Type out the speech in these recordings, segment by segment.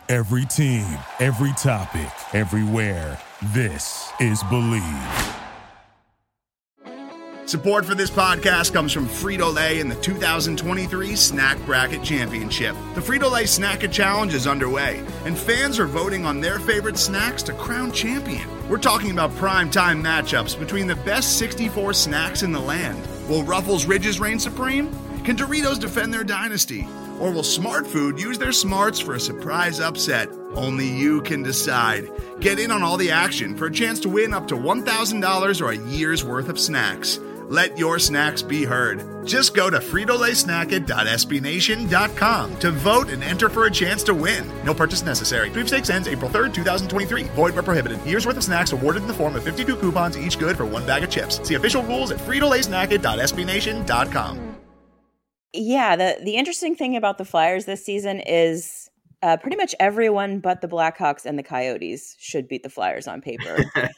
Every team, every topic, everywhere. This is Believe. Support for this podcast comes from Frito-Lay and the 2023 Snack Bracket Championship. The Frito-Lay Snack-It Challenge is underway, and fans are voting on their favorite snacks to crown champion. We're talking about prime-time matchups between the best 64 snacks in the land. Will Ruffles Ridges reign supreme? Can Doritos defend their dynasty? Or will Smart Food use their smarts for a surprise upset? Only you can decide. Get in on all the action for a chance to win up to $1,000 or a year's worth of snacks. Let your snacks be heard. Just go to fritolaysnacket.sbnation.com to vote and enter for a chance to win. No purchase necessary. Sweepstakes ends April 3rd, 2023. Void where prohibited. Year's worth of snacks awarded in the form of 52 coupons, each good for one bag of chips. See official rules at fritolaysnacket.sbnation.com. Yeah, the interesting thing about the Flyers this season is pretty much everyone but the Blackhawks and the Coyotes should beat the Flyers on paper.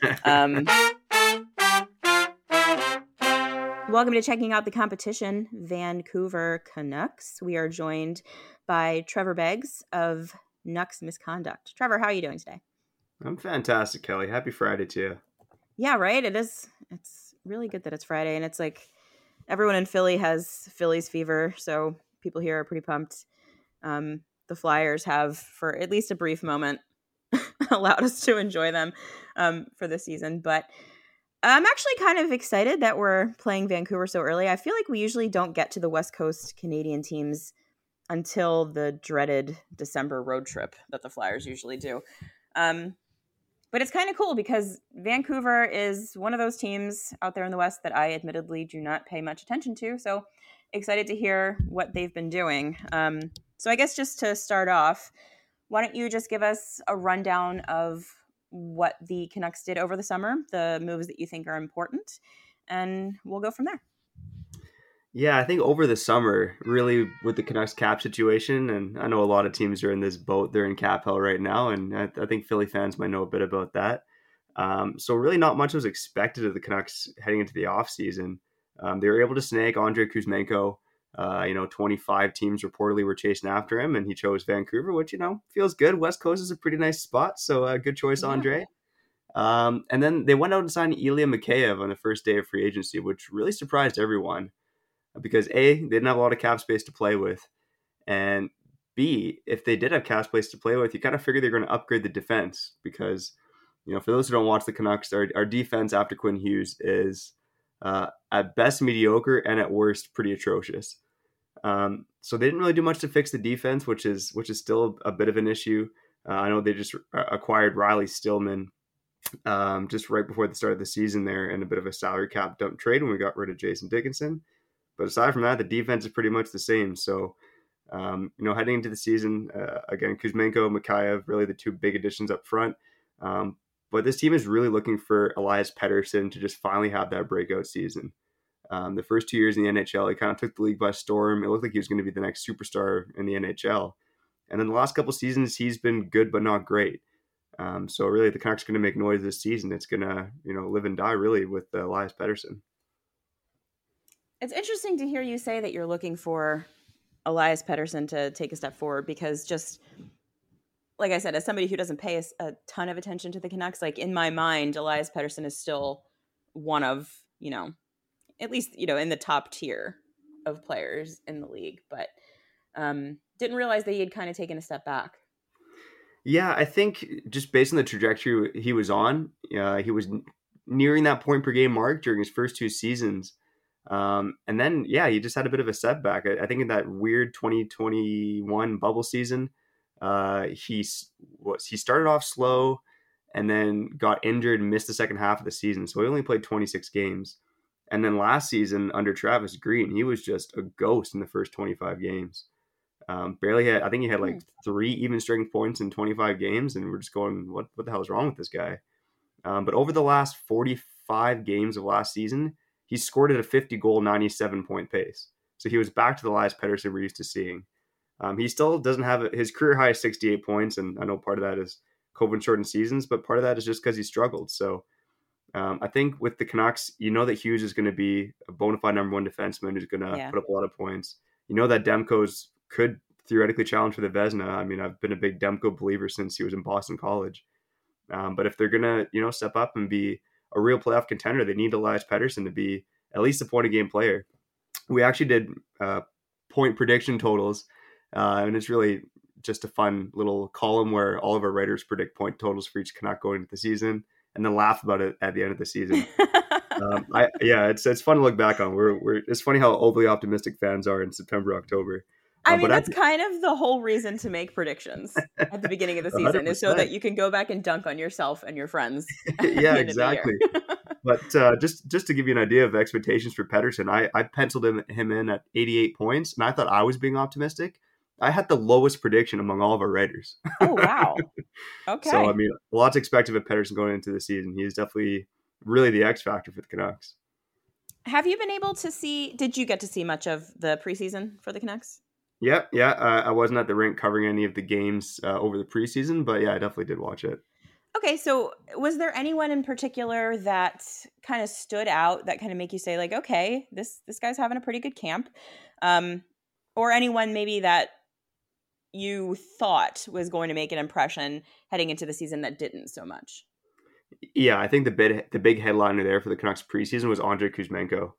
Welcome to Checking Out the Competition, Vancouver Canucks. We are joined by Trevor Beggs of Nucks Misconduct. Trevor, how are you doing today? I'm fantastic, Kelly. Happy Friday to you. Yeah, right? It is. It's really good that it's Friday, and it's like everyone in Philly has Phillies fever, so people here are pretty pumped. The Flyers have, for at least a brief moment, allowed us to enjoy them for this season, but I'm actually kind of excited that we're playing Vancouver so early. I feel like we usually don't get to the West Coast Canadian teams until the dreaded December road trip that the Flyers usually do. But it's kind of cool because Vancouver is one of those teams out there in the West that I admittedly do not pay much attention to. So excited to hear what they've been doing. So I guess just to start off, why don't you just give us a rundown of what the Canucks did over the summer, the moves that you think are important, and we'll go from there. Yeah, I think over the summer, really with the Canucks cap situation, and I know a lot of teams are in this boat, they're in cap hell right now, and I think Philly fans might know a bit about that. So really not much was expected of the Canucks heading into the offseason. They were able to snag Andrei Kuzmenko. 25 teams reportedly were chasing after him, and he chose Vancouver, which, feels good. West Coast is a pretty nice spot, so good choice, Andre. And then they went out and signed Ilya Mikheyev on the first day of free agency, which really surprised everyone because A, they didn't have a lot of cap space to play with, and B, if they did have cap space to play with, you kind of figure they're going to upgrade the defense because, for those who don't watch the Canucks, our defense after Quinn Hughes is at best mediocre and at worst pretty atrocious. So they didn't really do much to fix the defense, which is still a bit of an issue. I know they just acquired Riley Stillman just right before the start of the season there in a bit of a salary cap dump trade when we got rid of Jason Dickinson. But aside from that, the defense is pretty much the same. So, heading into the season, again, Kuzmenko, Mikheyev, really the two big additions up front. But this team is really looking for Elias Pettersson to just finally have that breakout season. The first 2 years in the NHL, he kind of took the league by storm. It looked like he was going to be the next superstar in the NHL. And then the last couple seasons, he's been good but not great. So really, the Canucks are going to make noise this season. It's going to, live and die really with Elias Pettersson. It's interesting to hear you say that you're looking for Elias Pettersson to take a step forward because just like I said, as somebody who doesn't pay a ton of attention to the Canucks, like in my mind, Elias Pettersson is still one of, at least, in the top tier of players in the league, but didn't realize that he had kind of taken a step back. Yeah, I think just based on the trajectory he was on, he was nearing that point per game mark during his first two seasons. And then, he just had a bit of a setback. I think in that weird 2021 bubble season, he started off slow and then got injured and missed the second half of the season. So he only played 26 games. And then last season under Travis Green, he was just a ghost in the first 25 games. Barely had, I think he had like 3 even strength points in 25 games. And we're just going, what the hell is wrong with this guy? But over the last 45 games of last season, he scored at a 50-goal, 97-point pace. So he was back to the Elias Pettersson we're used to seeing. He still doesn't have his career high 68 points, and I know part of that is COVID-shortened seasons, but part of that is just because he struggled. So I think with the Canucks, that Hughes is going to be a bona fide number one defenseman who's going to put up a lot of points. That Demko's could theoretically challenge for the Vezina. I mean, I've been a big Demko believer since he was in Boston College. But if they're gonna, step up and be a real playoff contender, they need Elias Pettersson to be at least a point a game player. We actually did point prediction totals, and it's really just a fun little column where all of our writers predict point totals for each Canuck going into the season, and then laugh about it at the end of the season. It's fun to look back on. It's funny how overly optimistic fans are in September, October. I mean, that's kind of the whole reason to make predictions at the beginning of the season 100%. Is so that you can go back and dunk on yourself and your friends. Yeah, exactly. But just to give you an idea of expectations for Pettersson, I penciled him in at 88 points, and I thought I was being optimistic. I had the lowest prediction among all of our writers. Oh, wow. Okay. So, I mean, lots expected of Pettersson going into the season. He is definitely really the X factor for the Canucks. Have you been able to did you get to see much of the preseason for the Canucks? Yeah. I wasn't at the rink covering any of the games over the preseason, but yeah, I definitely did watch it. Okay, so was there anyone in particular that kind of stood out that kind of make you say, like, okay, this guy's having a pretty good camp? Or anyone maybe that you thought was going to make an impression heading into the season that didn't so much? Yeah, I think the big headliner there for the Canucks preseason was Andrei Kuzmenko.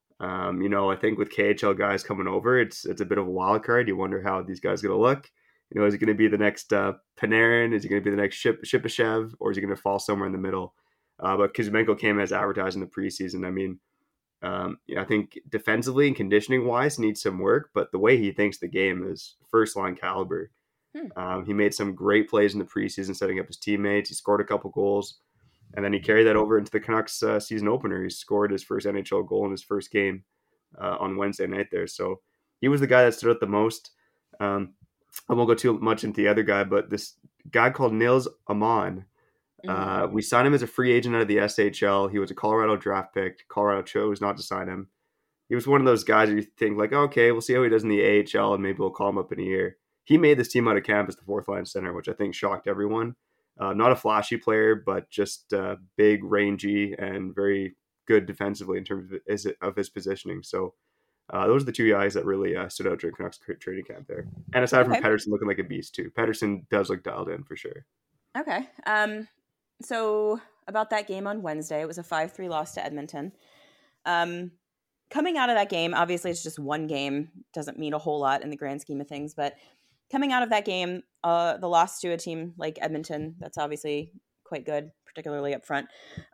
I think with KHL guys coming over, it's a bit of a wild card. You wonder how these guys are going to look. Is it going to be the next Panarin? Is it going to be the next Shipachyov? Or is he going to fall somewhere in the middle? But Kuzmenko came as advertised in the preseason. I mean, I think defensively and conditioning-wise needs some work, but the way he thinks the game is first-line caliber. He made some great plays in the preseason, setting up his teammates. He scored a couple goals. And then he carried that over into the Canucks season opener. He scored his first NHL goal in his first game on Wednesday night there. So he was the guy that stood out the most. I won't go too much into the other guy, but this guy called Nils Aman, we signed him as a free agent out of the SHL. He was a Colorado draft pick. Colorado chose not to sign him. He was one of those guys where you think, like, okay, we'll see how he does in the AHL, and maybe we'll call him up in a year. He made this team out of camp as the fourth-line center, which I think shocked everyone. Not a flashy player, but just big, rangy, and very good defensively in terms of his positioning. So those are the two guys that really stood out during Canucks training camp there. And aside from Pettersson looking like a beast too. Pettersson does look dialed in for sure. Okay. So about that game on Wednesday, it was a 5-3 loss to Edmonton. Coming out of that game, obviously it's just one game, doesn't mean a whole lot in the grand scheme of things, but coming out of that game, the loss to a team like Edmonton, that's obviously quite good, particularly up front.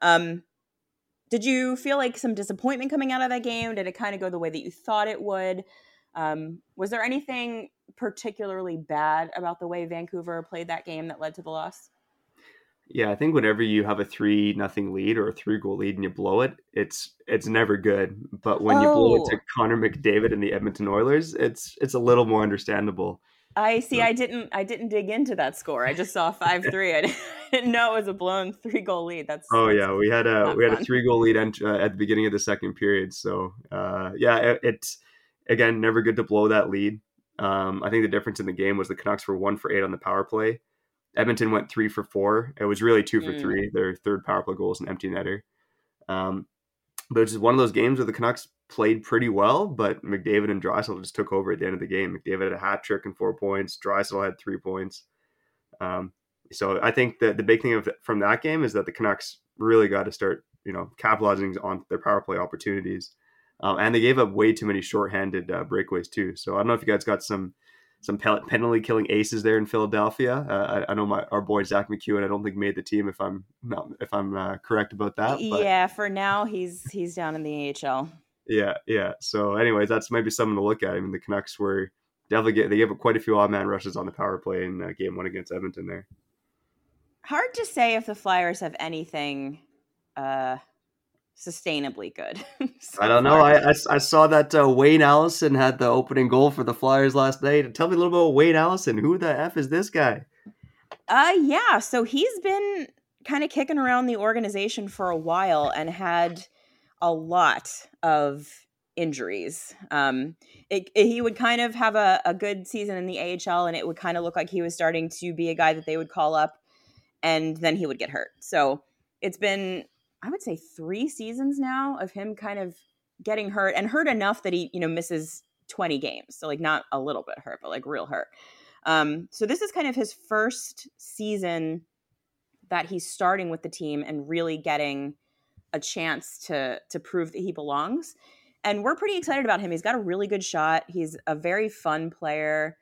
Did you feel like some disappointment coming out of that game? Did it kind of go the way that you thought it would? Was there anything particularly bad about the way Vancouver played that game that led to the loss? Yeah, I think whenever you have a 3-0 lead or a 3-goal lead and you blow it, it's never good. But when you blow it to Connor McDavid and the Edmonton Oilers, it's a little more understandable. I see. I didn't dig into that score. I just saw 5-3. I didn't know it was a blown 3-goal lead. That's yeah. We had a 3-goal lead at the beginning of the second period. So it's again never good to blow that lead. I think the difference in the game was the Canucks were 1 for 8 on the power play. Edmonton went 3 for 4. It was really 2 for 3. Their third power play goal is an empty netter. But it's just one of those games where the Canucks played pretty well, but McDavid and Draisaitl just took over at the end of the game. McDavid had a hat trick and 4 points. Draisaitl had 3 points. So I think that the big thing from that game is that the Canucks really got to start, capitalizing on their power play opportunities. And they gave up way too many shorthanded breakaways too. So I don't know if you guys got some penalty killing aces there in Philadelphia. I know our boy Zach McEwen, I don't think made the team if I'm correct about that. But yeah, for now he's down in the AHL. Yeah. So anyways, that's maybe something to look at. I mean, the Canucks were definitely they gave up quite a few odd man rushes on the power play in game 1 against Edmonton there. Hard to say if the Flyers have anything sustainably good. I don't know. I saw that Wayne Allison had the opening goal for the Flyers last night. Tell me a little bit about Wayne Allison. Who the F is this guy? Yeah. So he's been kind of kicking around the organization for a while and had a lot of injuries. He would kind of have a good season in the AHL, and it would kind of look like he was starting to be a guy that they would call up, and then he would get hurt. So it's been, I would say, 3 seasons now of him kind of getting hurt, and hurt enough that he, misses 20 games. So like not a little bit hurt, but like real hurt. So this is kind of his first season that he's starting with the team and really getting a chance to prove that he belongs. And we're pretty excited about him. He's got a really good shot. He's a very fun player.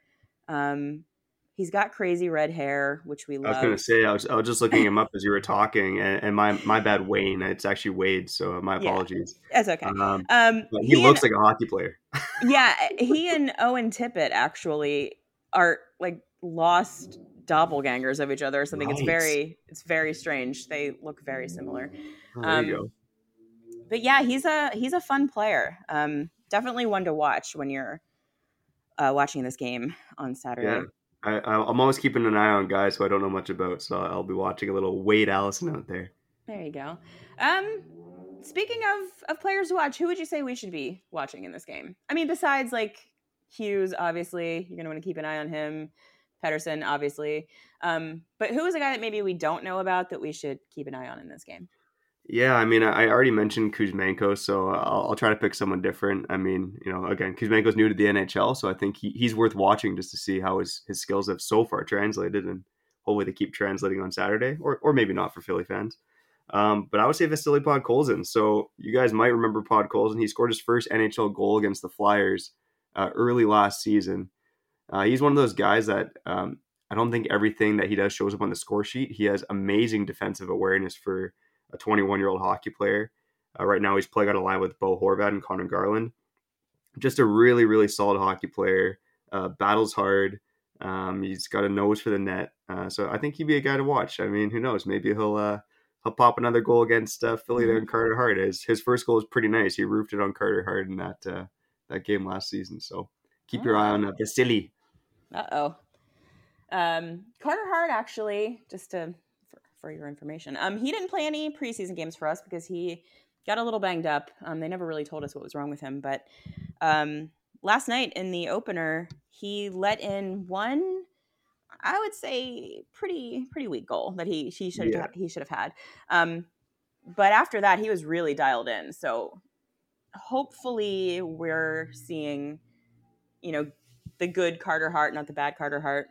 He's got crazy red hair, which we love. I was going to say, I was just looking him up as you were talking, and my bad, Wayne. It's actually Wade, so my apologies. Yeah, that's okay. But he looks like a hockey player. Yeah, he and Owen Tippett actually are like lost doppelgangers of each other or something. Right. It's very strange. They look very similar. Oh, there you go. But yeah, he's a fun player. Definitely one to watch when you're watching this game on Saturday. Yeah. I'm always keeping an eye on guys who I don't know much about, so I'll be watching a little Wade Allison out there. There you go. Speaking of players to watch, who would you say we should be watching in this game? I mean, besides like Hughes, obviously, you're going to want to keep an eye on him. Pettersson, obviously. But who is a guy that maybe we don't know about that we should keep an eye on in this game? Yeah, I mean, I already mentioned Kuzmenko, so I'll try to pick someone different. I mean, again, Kuzmenko's new to the NHL, so I think he's worth watching just to see how his skills have so far translated, and hopefully they keep translating on Saturday, or maybe not for Philly fans. But I would say Vasily Podkolzin. So you guys might remember Podkolzin. He scored his first NHL goal against the Flyers early last season. He's one of those guys that I don't think everything that he does shows up on the score sheet. He has amazing defensive awareness for a 21-year-old hockey player. Right now he's playing on a line with Bo Horvat and Connor Garland. Just a really, really solid hockey player. Battles hard. He's got a nose for the net. So I think he'd be a guy to watch. I mean, who knows? Maybe he'll pop another goal against Philly there in Carter Hart. His first goal was pretty nice. He roofed it on Carter Hart in that game last season. So keep your eye on Vasily. Uh-oh. Carter Hart, actually, just for your information, he didn't play any preseason games for us because he got a little banged up. They never really told us what was wrong with him, but last night in the opener, he let in one, I would say, pretty weak goal that he should have had. But after that, he was really dialed in. So hopefully we're seeing, the good Carter Hart, not the bad Carter Hart.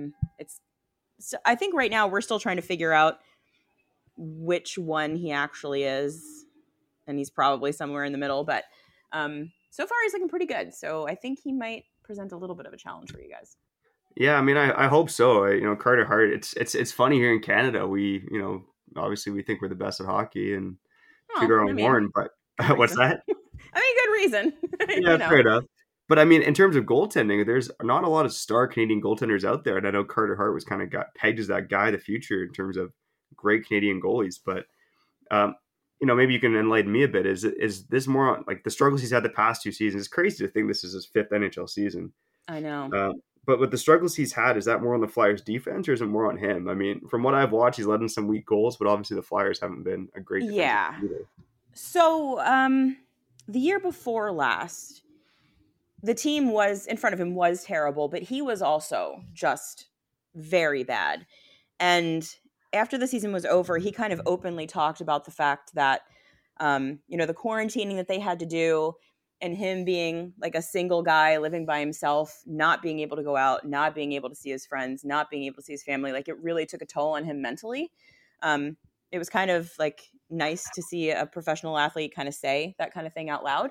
So I think right now we're still trying to figure out which one he actually is, and he's probably somewhere in the middle. But so far he's looking pretty good. So I think he might present a little bit of a challenge for you guys. Yeah, I mean, I hope so. Carter Hart. It's funny here in Canada. We, obviously we think we're the best at hockey and toot our own horn. But what's that? I mean, good reason. Yeah, fair enough. But I mean, in terms of goaltending, there's not a lot of star Canadian goaltenders out there. And I know Carter Hart was kind of got pegged as that guy of the future in terms of great Canadian goalies. But, maybe you can enlighten me a bit. Is this more on, like, the struggles he's had the past 2 seasons? It's crazy to think this is his 5th NHL season. I know. But with the struggles he's had, is that more on the Flyers defense or is it more on him? I mean, from what I've watched, he's led in some weak goals, but obviously the Flyers haven't been a great defense either. So the year before last, the team in front of him was terrible, but he was also just very bad. And after the season was over, he kind of openly talked about the fact that, the quarantining that they had to do and him being like a single guy living by himself, not being able to go out, not being able to see his friends, not being able to see his family, like it really took a toll on him mentally. It was kind of like nice to see a professional athlete kind of say that kind of thing out loud.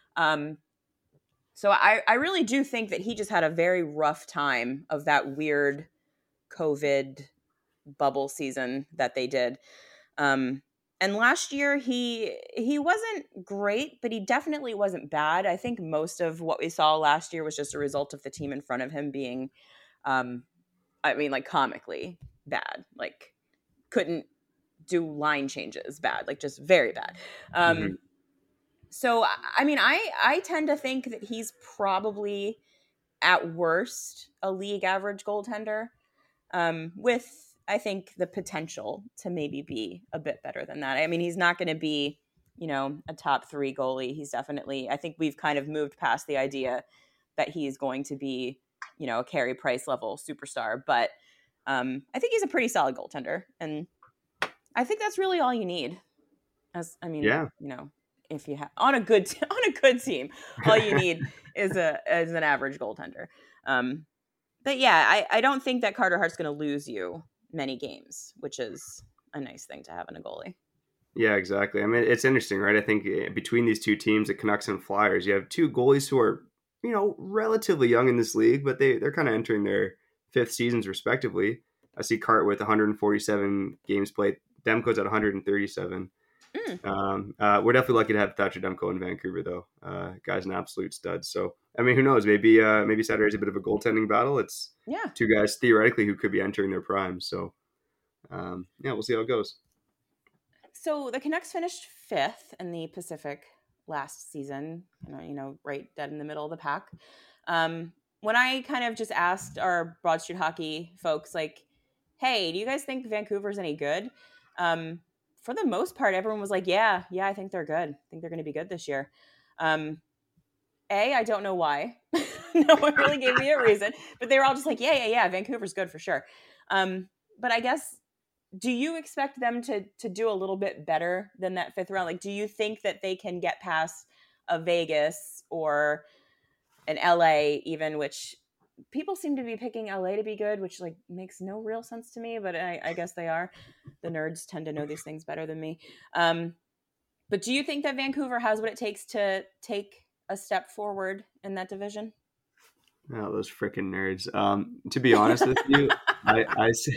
So I really do think that he just had a very rough time of that weird COVID bubble season that they did. And last year he wasn't great, but he definitely wasn't bad. I think most of what we saw last year was just a result of the team in front of him being, comically bad. Like couldn't do line changes bad, like just very bad. So, I mean, I tend to think that he's probably at worst a league average goaltender, with, I think, the potential to maybe be a bit better than that. I mean, he's not going to be, a top 3 goalie. He's definitely, I think we've kind of moved past the idea that he's going to be, a Carey Price level superstar. But I think he's a pretty solid goaltender. And I think that's really all you need. if you have on a good team, all you need is an average goaltender. But yeah, I don't think that Carter Hart's going to lose you many games, which is a nice thing to have in a goalie. Yeah, exactly. I mean, it's interesting, right? I think between these two teams, the Canucks and Flyers, you have two goalies who are, relatively young in this league, but they're kind of entering their fifth seasons respectively. I see Cart with 147 games played. Demko's at 137. We're definitely lucky to have Thatcher Demko in Vancouver, though. Guy's an absolute stud. So, I mean, who knows? Maybe Saturday's a bit of a goaltending battle. It's two guys theoretically who could be entering their prime. So, we'll see how it goes. So the Canucks finished 5th in the Pacific last season, right dead in the middle of the pack. When I kind of just asked our Broad Street Hockey folks, like, hey, do you guys think Vancouver's any good? For the most part, everyone was like, yeah, I think they're good. I think they're going to be good this year. I don't know why. No one really gave me a reason, but they were all just like, yeah, Vancouver's good for sure. But I guess, do you expect them to do a little bit better than that 5th round? Like, do you think that they can get past a Vegas or an LA even, which people seem to be picking LA to be good, which like makes no real sense to me, but I guess they are. The nerds tend to know these things better than me. But do you think that Vancouver has what it takes to take a step forward in that division? Oh, those freaking nerds. To be honest with you, I see,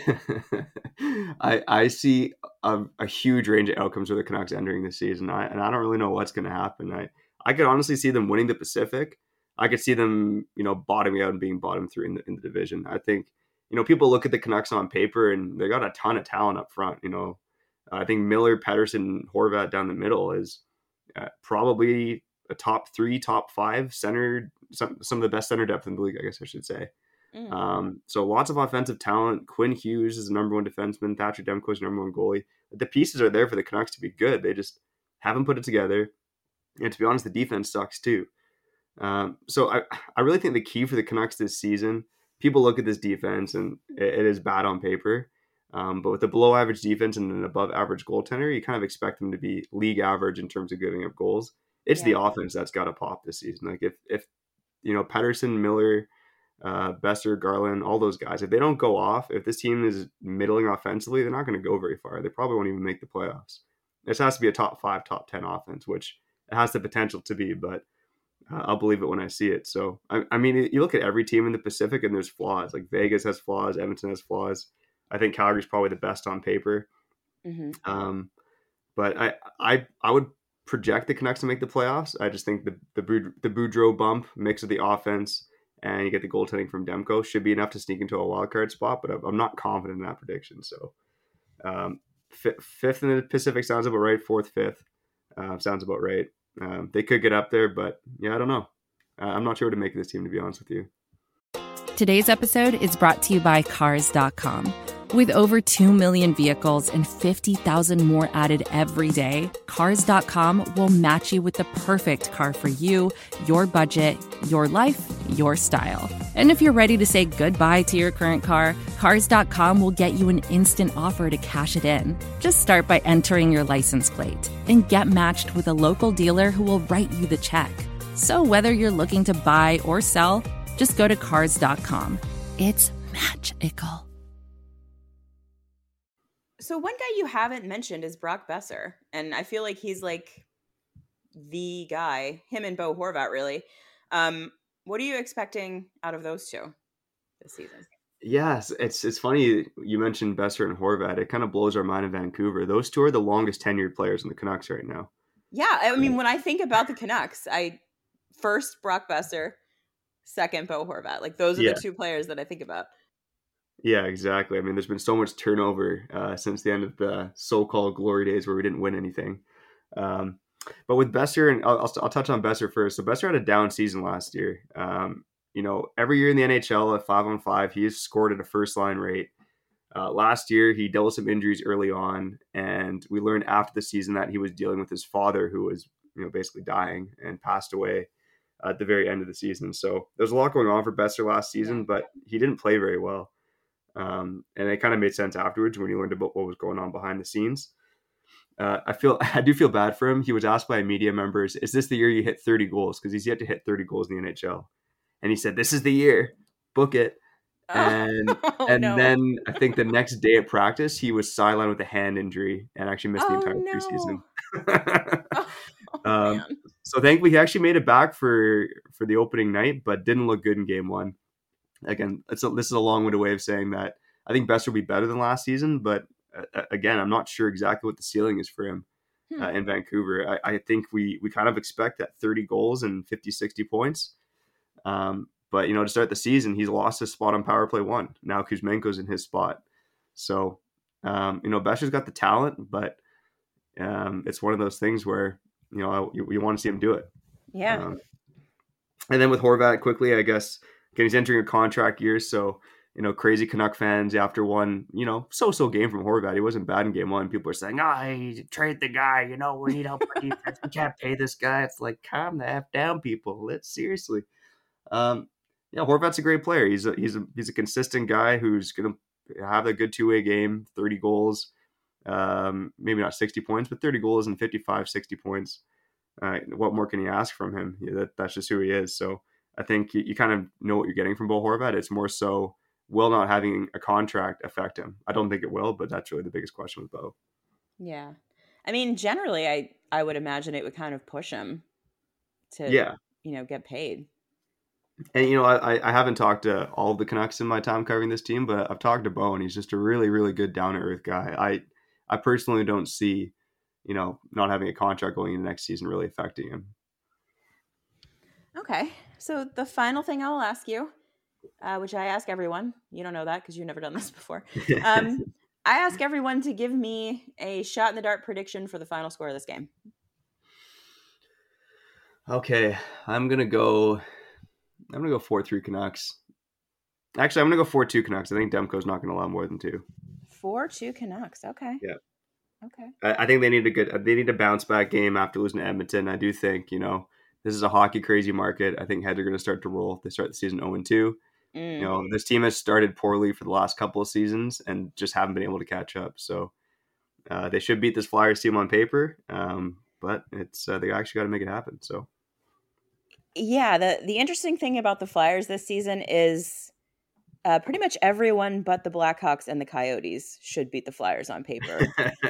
I see a huge range of outcomes for the Canucks entering this season. I don't really know what's going to happen. I could honestly see them winning the Pacific. I could see them, bottoming out and being bottom 3 in the division. I think, people look at the Canucks on paper and they got a ton of talent up front. I think Miller, Pettersson, Horvat down the middle is probably a top 3, top 5 center, some of the best center depth in the league, I guess I should say. So lots of offensive talent. Quinn Hughes is the number 1 defenseman. Thatcher Demko is the number 1 goalie. The pieces are there for the Canucks to be good. They just haven't put it together. And to be honest, the defense sucks too. So I really think the key for the Canucks this season, people look at this defense and it is bad on paper. But with a below average defense and an above average goaltender, you kind of expect them to be league average in terms of giving up goals. It's the offense that's got to pop this season. Like if Pettersson, Miller, Besser, Garland, all those guys, if they don't go off, if this team is middling offensively, they're not going to go very far. They probably won't even make the playoffs. This has to be a top 5, top 10 offense, which it has the potential to be, but I'll believe it when I see it. So, I mean, you look at every team in the Pacific and there's flaws. Like Vegas has flaws, Edmonton has flaws. I think Calgary's probably the best on paper. But I would project the Canucks to make the playoffs. I just think the Boudreau bump mix of the offense and you get the goaltending from Demko should be enough to sneak into a wild card spot, but I'm not confident in that prediction. So 5th in the Pacific sounds about right. 4th, 5th sounds about right. They could get up there, but I don't know. I'm not sure what to make of this team, to be honest with you. Today's episode is brought to you by Cars.com. With over 2 million vehicles and 50,000 more added every day, Cars.com will match you with the perfect car for you, your budget, your life, your style. And if you're ready to say goodbye to your current car, Cars.com will get you an instant offer to cash it in. Just start by entering your license plate and get matched with a local dealer who will write you the check. So whether you're looking to buy or sell, just go to Cars.com. It's magical. So one guy you haven't mentioned is Brock Besser, and I feel like he's like the guy, him and Bo Horvat, really. What are you expecting out of those two this season? Yes, it's funny you mentioned Besser and Horvat. It kind of blows our mind in Vancouver. Those two are the longest tenured players in the Canucks right now. Yeah, I mean, when I think about the Canucks, first Brock Besser, second Bo Horvat. Like those are the two players that I think about. Yeah, exactly. I mean, there's been so much turnover since the end of the so-called glory days where we didn't win anything. But with Besser, and I'll touch on Besser first. So Besser had a down season last year. Every year in the NHL at 5-on-5, he has scored at a first-line rate. Last year, he dealt with some injuries early on, and we learned after the season that he was dealing with his father, who was basically dying and passed away at the very end of the season. So there's a lot going on for Besser last season, but he didn't play very well. And it kind of made sense afterwards when you learned about what was going on behind the scenes. I do feel bad for him. He was asked by media members, "Is this the year you hit 30 goals?" Because he's yet to hit 30 goals in the NHL, and he said, "This is the year. Book it." And No. then I think the next day at practice, he was sidelined with a hand injury and actually missed the entire preseason. Man. So thankfully, he actually made it back for the opening night, but didn't look good in game one. Again, this is a long-winded way of saying that I think Boeser will be better than last season, but again, I'm not sure exactly what the ceiling is for him in Vancouver. I think we kind of expect that 30 goals and 50, 60 points. But, to start the season, he's lost his spot on power play 1. Now Kuzmenko's in his spot. So, Boeser's got the talent, but it's one of those things where, you want to see him do it. Yeah. And then with Horvat, quickly, I guess, again, he's entering a contract year, so crazy Canuck fans after one, so-so game from Horvat. He wasn't bad in game 1. People are saying, hey, trade the guy. We need help on defense. We can't pay this guy. It's like, calm the F down, people. Seriously. Horvat's a great player. He's a consistent guy who's going to have a good two-way game, 30 goals, maybe not 60 points, but 30 goals and 55, 60 points. What more can you ask from him? That's just who he is. So I think you kind of know what you're getting from Bo Horvat. It's more so, will not having a contract affect him? I don't think it will, but that's really the biggest question with Bo. Yeah. I mean, generally, I would imagine it would kind of push him to, get paid. And, I haven't talked to all of the Canucks in my time covering this team, but I've talked to Bo, and he's just a really, really good down-to-earth guy. I personally don't see, not having a contract going into next season really affecting him. Okay. So the final thing I will ask you, which I ask everyone, you don't know that because you've never done this before. I ask everyone to give me a shot in the dark prediction for the final score of this game. Okay. I'm going to go 4-3 Canucks. Actually, I'm going to go 4-2 Canucks. I think Demko's not going to allow more than 2. 4-2 Canucks. Okay. Yeah. Okay. I think they need a bounce back game after losing to Edmonton. I do think, this is a hockey crazy market. I think heads are going to start to roll if they start the season 0-2. This team has started poorly for the last couple of seasons and just haven't been able to catch up. So they should beat this Flyers team on paper, but it's they actually got to make it happen. So. Yeah, the interesting thing about the Flyers this season is pretty much everyone but the Blackhawks and the Coyotes should beat the Flyers on paper.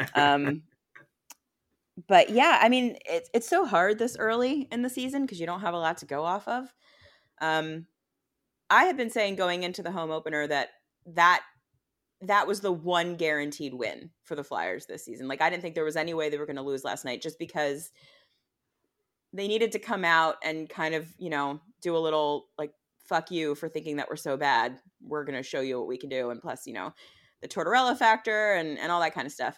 But yeah, I mean, it's so hard this early in the season because you don't have a lot to go off of. I have been saying going into the home opener that was the one guaranteed win for the Flyers this season. Like, I didn't think there was any way they were going to lose last night just because they needed to come out and kind of, do a little like, fuck you for thinking that we're so bad. We're going to show you what we can do. And plus, the Tortorella factor and all that kind of stuff.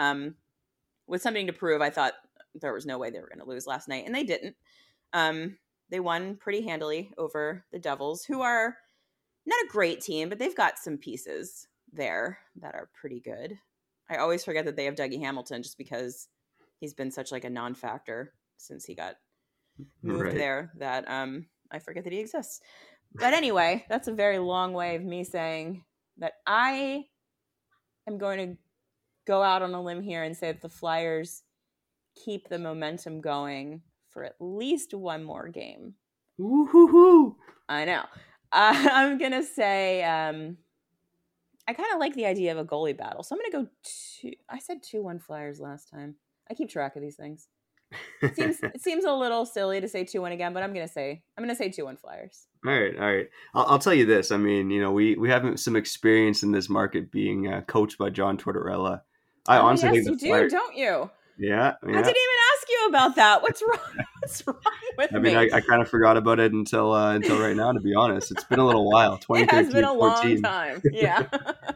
With something to prove, I thought there was no way they were going to lose last night. And they didn't. They won pretty handily over the Devils, who are not a great team, but they've got some pieces there that are pretty good. I always forget that they have Dougie Hamilton just because he's been such like a non-factor since he got moved there that I forget that he exists. But anyway, that's a very long way of me saying that I am going to go out on a limb here and say that the Flyers keep the momentum going for at least one more game. Woo-hoo-hoo. I know. I'm going to say I kind of like the idea of a goalie battle. So I'm going to go I said 2-1 Flyers last time. I keep track of these things. It seems a little silly to say 2-1 again, but I'm gonna say 2-1 Flyers. All right. I'll tell you this. I mean, we have some experience in this market being coached by John Tortorella. I honestly think you do, don't you? Yeah. I didn't even ask you about that. What's wrong? What's wrong with me? I mean, I kind of forgot about it until right now. To be honest, it's been a little while. 2013, it has been a 14. long time. Yeah.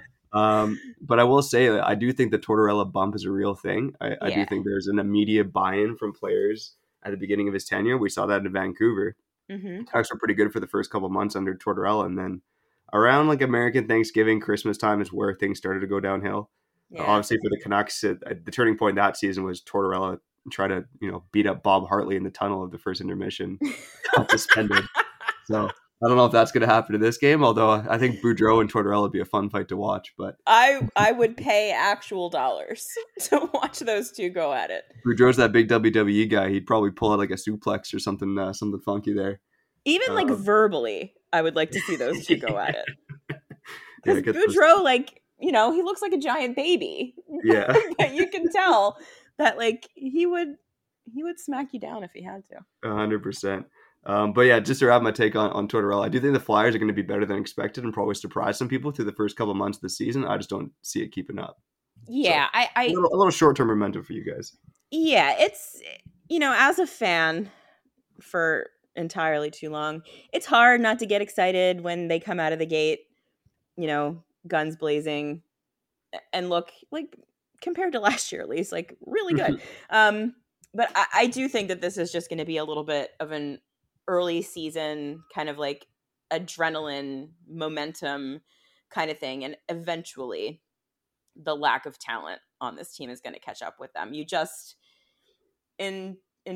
But I will say that I do think the Tortorella bump is a real thing. I do think there's an immediate buy-in from players at the beginning of his tenure. We saw that in Vancouver. Mm-hmm. Canucks were pretty good for the first couple of months under Tortorella, and then around like American Thanksgiving, Christmas time is where things started to go downhill. Yeah. Obviously, for the Canucks, the turning point that season was Tortorella try to beat up Bob Hartley in the tunnel of the first intermission, got suspended. So I don't know if that's going to happen in this game, although I think Boudreau and Tortorella would be a fun fight to watch. But I would pay actual dollars to watch those two go at it. Boudreau's that big WWE guy. He'd probably pull out like a suplex or something funky there. Even like verbally, I would like to see those two go at it. Because Yeah, Boudreau, like, you know, he looks like a giant baby. Yeah. But you can tell that like he would smack you down if he had to. 100%. But yeah, just to wrap my take on Tortorella, I do think the Flyers are going to be better than expected and probably surprise some people through the first couple of months of the season. I just don't see it keeping up. Yeah, so, a little short-term momentum for you guys. Yeah, it's, you know, as a fan for entirely too long, it's hard not to get excited when they come out of the gate, you know, guns blazing, and look like, compared to last year at least, like really good. But I do think that this is just going to be a little bit of an early season kind of like adrenaline momentum kind of thing, and eventually the lack of talent on this team is going to catch up with them. You just in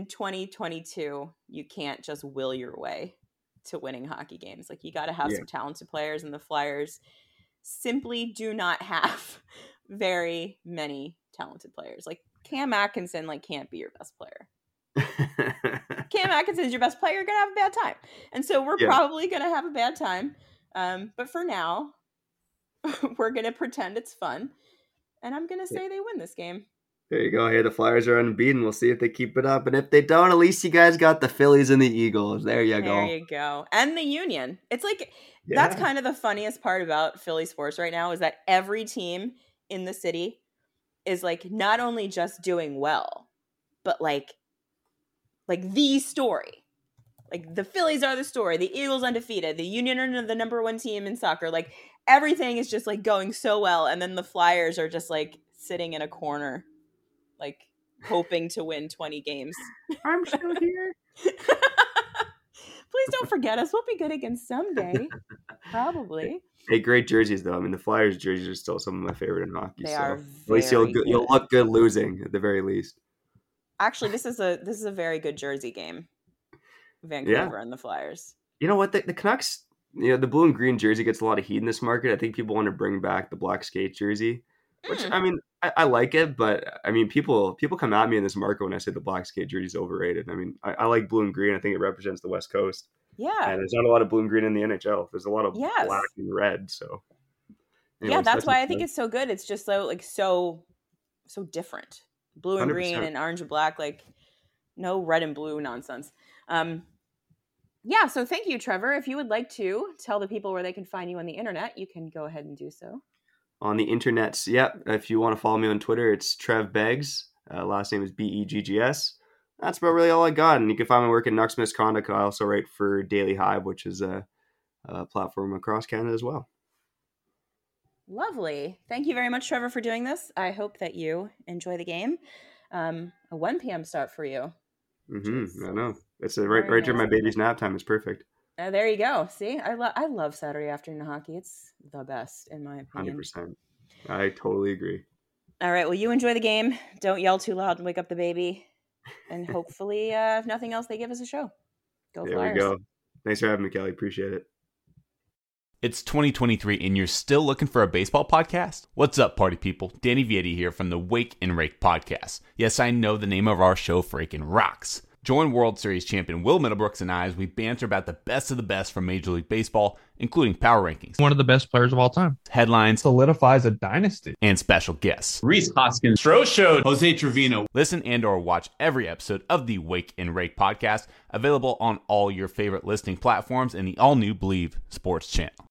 2022 you can't just will your way to winning hockey games. Like, you got to have some talented players, and the Flyers simply do not have very many talented players. Like, Cam Atkinson can't be your best player. Cam Atkinson's your best player, you're gonna have a bad time, and so we're probably gonna have a bad time. But for now, we're gonna pretend it's fun, and I'm gonna say they win this game. There you go. Hey, the Flyers are unbeaten. We'll see if they keep it up, and if they don't, at least you guys got the Phillies and the Eagles. There you go. There you go, and the Union. It's like that's kind of the funniest part about Philly sports right now, is that every team in the city is like not only just doing well, but like the story. Like, the Phillies are the story. The Eagles undefeated. The Union are the number one team in soccer. Like, everything is just like going so well, and then the Flyers are just like sitting in a corner, like hoping to win 20 games. I'm still here. Please don't forget us. We'll be good again someday. Probably. Hey, great jerseys though. I mean, the Flyers jerseys are still some of my favorite in hockey. They so are at least you'll look good losing at the very least. Actually, this is a very good jersey game. Vancouver and the Flyers. You know what? The Canucks, you know, the blue and green jersey gets a lot of heat in this market. I think people want to bring back the black skate jersey, which I mean, I like it, but I mean, people come at me in this market when I say the black skate jersey is overrated. I mean, I like blue and green. I think it represents the West Coast. Yeah. And there's not a lot of blue and green in the NHL. There's a lot of black and red. So anyways, that's why I think it's so good. It's just so different. Blue and 100%. Green and orange and black, like no red and blue nonsense. So thank you, Trevor. If you would like to tell the people where they can find you on the internet, you can go ahead and do so. On the internets, if you want to follow me on Twitter, it's Trev Beggs. Last name is Beggs. That's about really all I got. And you can find my work at Nucks Misconduct. I also write for Daily Hive, which is a platform across Canada as well. Lovely. Thank you very much, Trevor, for doing this. I hope that you enjoy the game. A 1 p.m. start for you. I know. It's right during my baby's nap time. It's perfect. There you go. See, I love Saturday afternoon hockey. It's the best, in my opinion. 100%. I totally agree. All right. Well, you enjoy the game. Don't yell too loud and wake up the baby. And hopefully, if nothing else, they give us a show. Go Flyers. There we go. Thanks for having me, Kelly. Appreciate it. It's 2023 and you're still looking for a baseball podcast? What's up, party people? Danny Vietti here from the Wake and Rake podcast. Yes, I know the name of our show freaking rocks. Join World Series champion Will Middlebrooks and I as we banter about the best of the best from Major League Baseball, including power rankings, one of the best players of all time, headlines, solidifies a dynasty, and special guests. Rhys Hoskins, Stroh Show, Jose Trevino. Listen and or watch every episode of the Wake and Rake podcast, available on all your favorite listening platforms and the all-new Believe Sports channel.